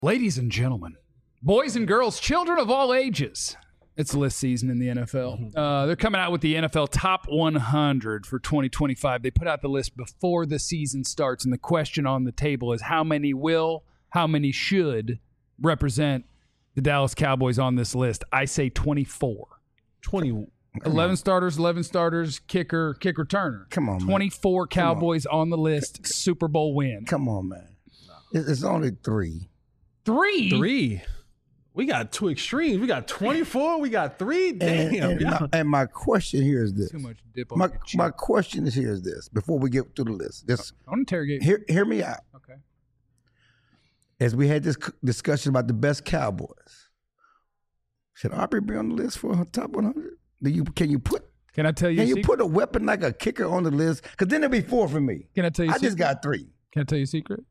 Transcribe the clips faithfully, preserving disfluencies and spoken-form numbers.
Ladies and gentlemen, boys and girls, children of all ages, it's list season in the N F L. Uh, they're coming out with the N F L Top one hundred for twenty twenty-five. They put out the list before the season starts, and the question on the table is how many will, how many should represent the Dallas Cowboys on this list. I say twenty-four. twenty. eleven starters, eleven starters, kicker, kick returner. Come on, man. twenty-four Cowboys on. on the list, Super Bowl win. Come on, man. It's only three. Three? Three. We got two extremes. We got twenty-four. We got three. Damn. And, and, my, and my question here is this. Too much dip on My, your cheek. my question is here is this. Before we get through the list, just I want to interrogate. hear, hear me out. Okay. As we had this c- discussion about the best Cowboys, should Aubrey be on the list for her top one hundred? Do you can you put Can I tell you? can a you secret? put a weapon like a kicker on the list? Because then it'll be four for me. Can I tell you? I a just secret? got three. Can I tell you a secret?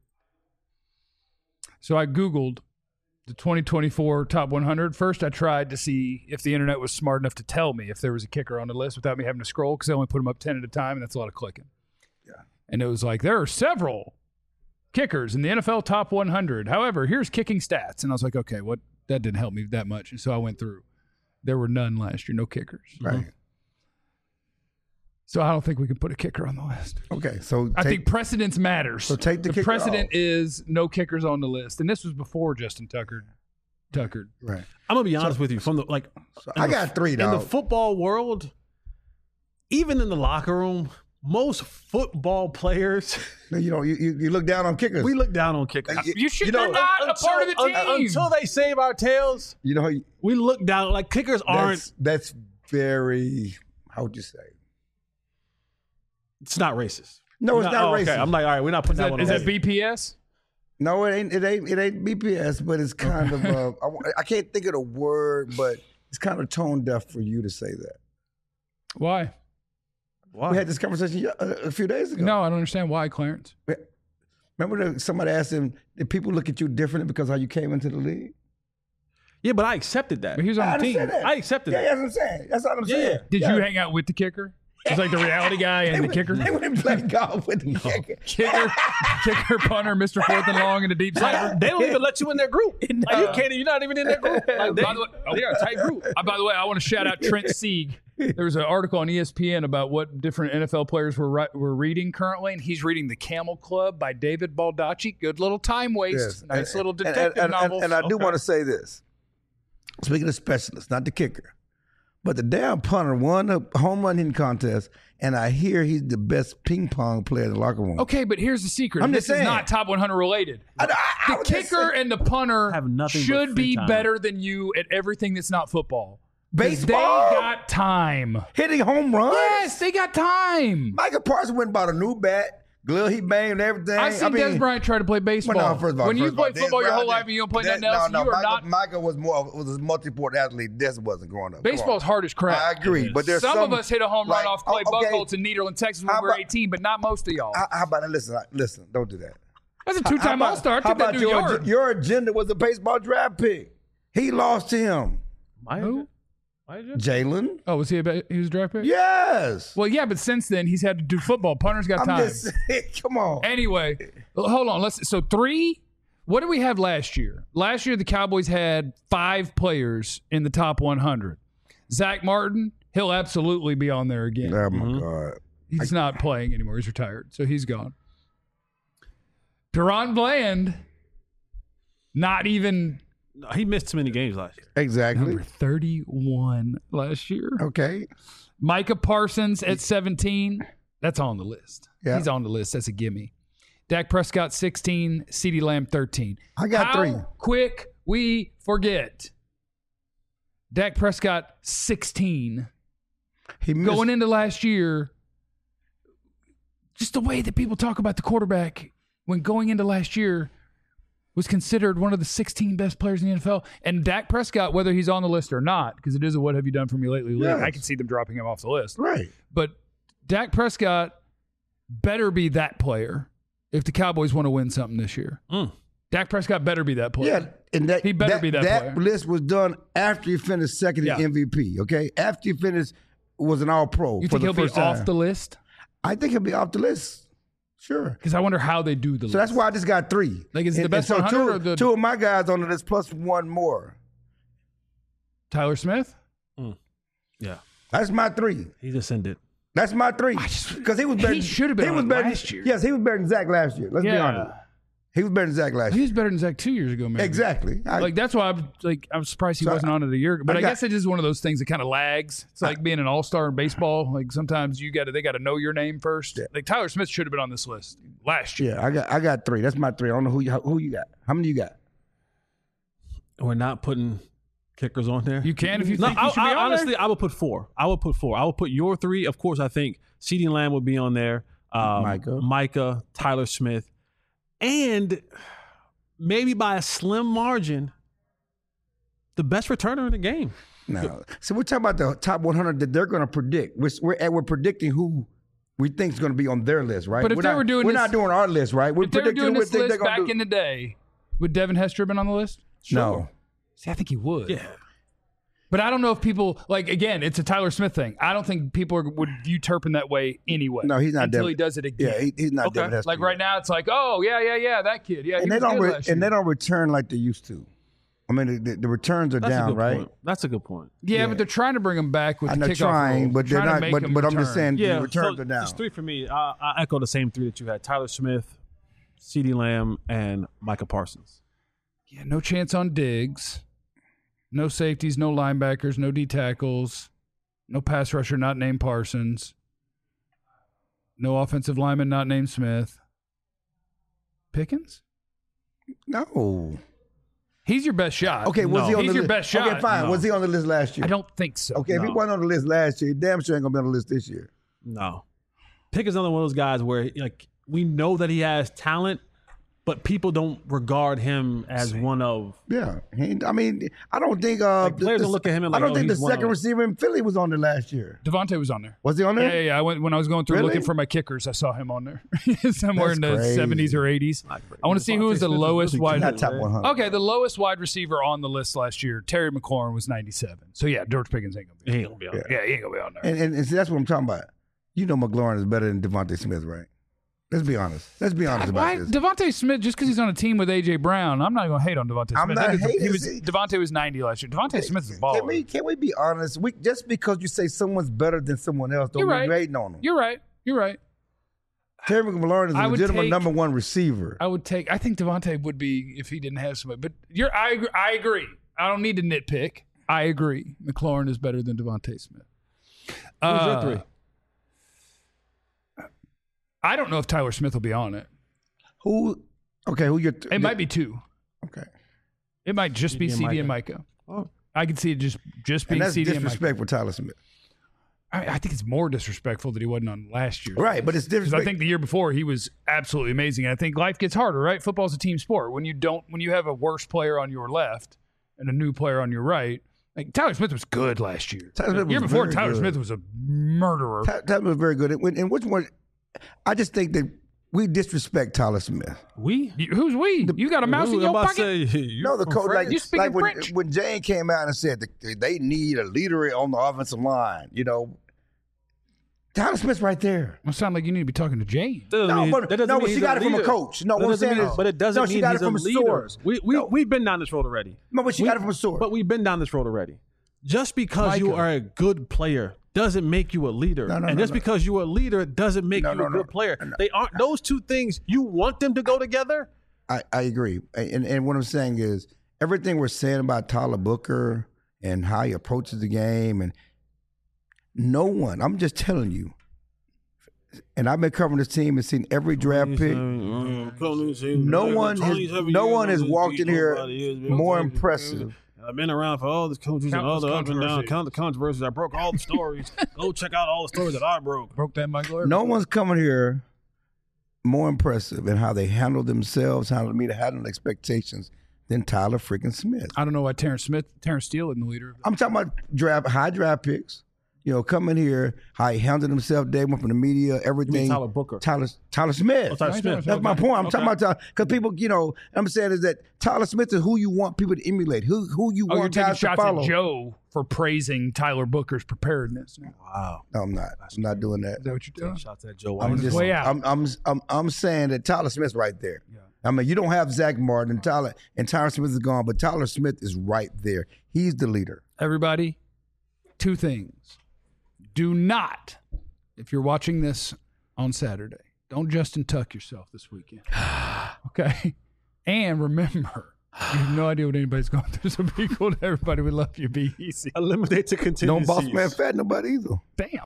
So I Googled the twenty twenty-four Top one hundred. First, I tried to see if the internet was smart enough to tell me if there was a kicker on the list without me having to scroll, because I only put them up ten at a time, and that's a lot of clicking. Yeah. And it was like, there are several kickers in the N F L Top one hundred. However, here's kicking stats. And I was like, okay, what? That didn't help me that much. And so I went through. There were none last year, no kickers. Right. So I don't think we can put a kicker on the list. Okay. So I take- think precedence matters. So take the kicker precedent off. is no kickers on the list, and this was before Justin Tucker. Tucker. right. I'm gonna be honest with you. From the like, So in I the- got three, in the dog. football world, even in the locker room, most football players You know, you, you, you look down on kickers. we look down on kickers. You- You should. You know, they're not a part of the team. un- until they save our tails. you know, We look down like kickers aren't. that's, that's very, how would you say? It's not racist. No, it's No, not oh, racist. Okay. I'm like, all right, we're not putting is that, that, one is on. that B P S? No, it ain't. It ain't. It ain't B P S, but it's kind of. Uh, I, I can't think of the word, but it's kind of tone deaf for you to say that. Why? Why? We had this conversation a, a few days ago. No, I don't understand why, Clarence. Remember that somebody asked him, "Did people look at you differently because how you came into the league?" Yeah, but I accepted that. But he was I on the team. understand that. I accepted Yeah, that. that's what I'm saying. That's what I'm Yeah. saying. Did Yeah. you hang out with the kicker? It's like the reality guy and They the went- kicker. They went and played golf with the kicker. Kicker, kicker, punter, Mister Fourth and Long, and a deep sniper. They don't even let you in their group. Like, you can't. You're not even in their group. Like, they, By the way, oh, they are a tight group. Uh, by the way, I want to shout out Trent Sieg. There was an article on E S P N about what different N F L players were ri- were reading currently, and he's reading The Camel Club by David Baldacci. Good little time waste. Yes. Nice And- little and- detective and, and, novel. And, I do Okay. want to say this. Speaking of specialists, not the kicker, but the damn punter won the home run hitting contest, and I hear he's the best ping pong player in the locker room. Okay, but here's the secret. I'm this just is saying. not top one hundred related. I- I- I the was just kicker saying- and the punter Have nothing but should free be time. better than you at everything that's not football. 'Cause Baseball? They got time. Hitting home runs? Yes, they got time. Michael Parsons went and bought a new bat, glove he banged and everything. I've seen I mean, Des Bryant try to play baseball. Well, no, first of all, when first you of all, play Des football your whole Bryant- life and you don't play Des- nothing else, no, no, you are Michael, not. Michael was more was a multi-sport athlete. Des wasn't growing up. Come Baseball is on. hard as crap. I agree, but there's some, some of us hit a home like, run off Clay oh, okay. Buchholz in Nederland, Texas when How we were about- eighteen, but not most of y'all. How, how about that? Listen, I- listen, don't do that. That's a How two-time about- All-Star. I How took that about dude your, yard. your agenda was a baseball draft pick? He lost to him. My Who? Jalen? Oh, was he a ba- he was a draft pick? Yes. Well, yeah, but since then he's had to do football. Punter's got I'm time. just saying, come on. Anyway, well, hold on. Let's. So three. What did we have last year? Last year the Cowboys had five players in the top one hundred. Zach Martin, he'll absolutely be on there again. Oh my God. He's not playing anymore. He's retired, so he's gone. Deron Bland, not even No, he missed too many games last year. Exactly. number thirty-one last year. Okay. Micah Parsons at seventeen. That's on the list. Yeah. He's on the list. That's a gimme. Dak Prescott sixteen, CeeDee Lamb thirteen. I got How three. quick we forget. Dak Prescott sixteen. He missed, Going into last year, just the way that people talk about the quarterback when going into last year was considered one of the sixteen best players in the N F L. And Dak Prescott, whether he's on the list or not, because it is a what have you done for me lately league, Yes. I can see them dropping him off the list. right. But Dak Prescott better be that player if the Cowboys want to win something this year. Mm. Dak Prescott better be that player. Yeah, and that He better that, be that player. list was done after he finished second Yeah. in M V P. Okay, after he finished was an All Pro. You for think the he'll be first time. off the list? I think he'll be off the list Sure. Because I wonder how they do the list. So that's why I just got three. Like, is it the And- best and so one hundred two, or the- two of my guys on the list plus one more. Tyler Smith? Yeah, That's my three. he's ascended. That's my three. Because he was better. he should have been he on was it better last year. Yes, he was better than Zach last year. Let's be Yeah. honest. He was better than Zach last He year. was better than Zach two years ago, man. Exactly. I, Like that's why I'm like I'm surprised he So wasn't on it a year ago. But I I, got- guess it is one of those things that kind of lags. It's like being an all star in baseball. Like sometimes you got to they got to know your name first. Yeah. Like Tyler Smith should have been on this list last year. yeah, I got I got three. That's my three. I don't know who you, who you got. How many you got? We're not putting kickers on there. You can if you No, think I, you should be I, on honestly, there. I would put four. I would put four. I would put your three. Of course, I think CeeDee Lamb would be on there. Um, Micah. Micah, Tyler Smith, and maybe by a slim margin, the best returner in the game. No. So we're talking about the top one hundred that they're going to predict. We're we're, and we're predicting who we think is going to be on their list, right? But if we're they not, were doing we're this- not doing our list, right? We're If they were predicting doing who we this think they're list going to back do. in the day, would Devin Hester have been on the list? No. See, I think he would. Yeah. But I don't know if people like again. It's a Tyler Smith thing. I don't think people are, would view Turpin that way anyway. No, he's not until Devin- he does it again. Yeah, he, he's not Okay. Devin Hester. Like right now, it's like, oh yeah, yeah, yeah, that kid. Yeah, he and they was don't good re- last and year. they don't return like they used to. I mean, the, the returns are That's a down, good right? point. That's a good point. Yeah, Yeah. but they're trying to bring him back with I the know kickoff trying, rule. but they're Trying to not. make But, him but I'm just return. saying Yeah, the returns so are down. It's three for me. I, I echo the same three that you had: Tyler Smith, CeeDee Lamb, and Micah Parsons. Yeah, no chance on Diggs. No safeties, no linebackers, no D tackles, no pass rusher not named Parsons, no offensive lineman not named Smith. Pickens? No. He's your best shot. Okay, was No. he on He's the your list? best shot. Okay, fine. No. Was he on the list last year? I don't think so. Okay, if he No. wasn't on the list last year, he damn sure ain't gonna be on the list this year. No, Pickett's another one of those guys where like we know that he has talent, but people don't regard him as one of. Yeah, he, I mean, I don't think uh, Like, players the, don't look at him and I like, don't oh, think the he's one second of- receiver in Philly was on there last year. Devontae was on there. Was he on Yeah, there? yeah, yeah. I went when I was going through Really? looking for my kickers. I saw him on there somewhere That's in the crazy. seventies or eighties. I want to see who was the Devontae Smith is lowest really wide. Not top one hundred. Okay, the lowest wide receiver on the list last year, Terry McLaurin, was ninety-seven. So yeah, George Pickens ain't gonna be. He ain't gonna be on there. Yeah, he ain't gonna be on there. And, and, and see, that's what I'm talking about. You know, McLaurin is better than Devontae Smith, right? Let's be honest. Let's be honest Why about this. Devontae Smith? Just because he's on a team with A J Brown, I'm not going to hate on Devontae I'm Smith. not I think hating. he was, See- Devontae was ninety last year. Devontae Smith is a baller. Can we, can we be honest? We, just because you say someone's better than someone else, don't You're mean right. you hating on them. You're right. You're right. Terry McLaurin is a I would legitimate take- number one receiver. I would take. I think Devontae would be if he didn't have somebody. But you're. I. agree- I agree. I don't need to nitpick. I agree. McLaurin is better than Devontae Smith. Who's Uh, your three? I don't know if Tyler Smith will be on it. Who? Okay, who your? It might be two. Okay, It might just be C D C and D and Micah. Oh. I could see it just just and being that's C D and Micah. disrespect for Tyler Smith. I, I think it's more disrespectful that he wasn't on last year. Right, but it's Because disrespect. I think the year before he was absolutely amazing. And I think life gets harder, right? Football's a team sport. When you don't, when you have a worse player on your left and a new player on your right, like Tyler Smith was good last year. Tyler Smith the year was before, very Tyler good. Smith was a murderer. Ty- Tyler was very good. And, and which one? I just think that we disrespect Tyler Smith. We? You- who's we? you got a mouse Who- in I'm your about to pocket? say, you No, the from coach, like, France. You speaking like when, French? when Jane came out and said that they need a leader on the offensive line, you know, Tyler Smith's right there. Well, sound like you need to be talking to Jane. That doesn't No, mean- but- that doesn't no, mean but she he's got it from a leader. coach. No, That what I'm doesn't saying mean- is- but it doesn't no, she mean got he's it from a a leader. source. We we No. we've been down this road already. No, but she We- got it from a source. But we've been down this road already. Just because you Micah. are a good player doesn't make you a leader, No, no, and no, just no. because you're a leader doesn't make No, you no, a no. good player. No. They aren't those two things. You want them to go together. I, I agree. And, and what I'm saying is everything we're saying about Tyler Booker and how he approaches the game, and no one, I'm just telling you, and I've been covering this team and seen every draft pick. No one has, no one has walked in here more impressive. I've been around for all the coaches and all Countless the up and down, controversies. count the controversies. I broke all the stories. Go check out all the stories that I broke. Broke that Michael Irvin. No one's coming here more impressive in how they handle themselves, how they meet, handle expectations than Tyler freaking Smith. I don't know why Terrence Smith, Terrence Steele isn't the leader. I'm talking about draft high draft picks. You know, coming here, how he handled himself day one from the media, everything. Tyler Booker. Tyler, Tyler Smith. Oh, Tyler Smith. That's my Okay. point. I'm Okay. talking about Tyler. Because people, you know, I'm saying is that Tyler Smith is who you want people to emulate, who who you Oh, you're want taking guys to shots follow. at Joe for praising Tyler Booker's preparedness. Is Wow. No, I'm not. I'm not doing that. that what you're doing? Shots at Joe. I'm his just, way out. I'm, I'm, I'm, I'm saying that Tyler Smith's right there. Yeah. I mean, you don't have Zach Martin and Tyler, and Tyler Smith is gone, but Tyler Smith is right there. He's the leader. Everybody, two things. Do not, if you're watching this on Saturday, don't Justin Tuck yourself this weekend. Okay? And remember, you have no idea what anybody's going through, so be cool to everybody. We love you. Be easy. Eliminate the contingencies. Don't boss man fat nobody either. Damn.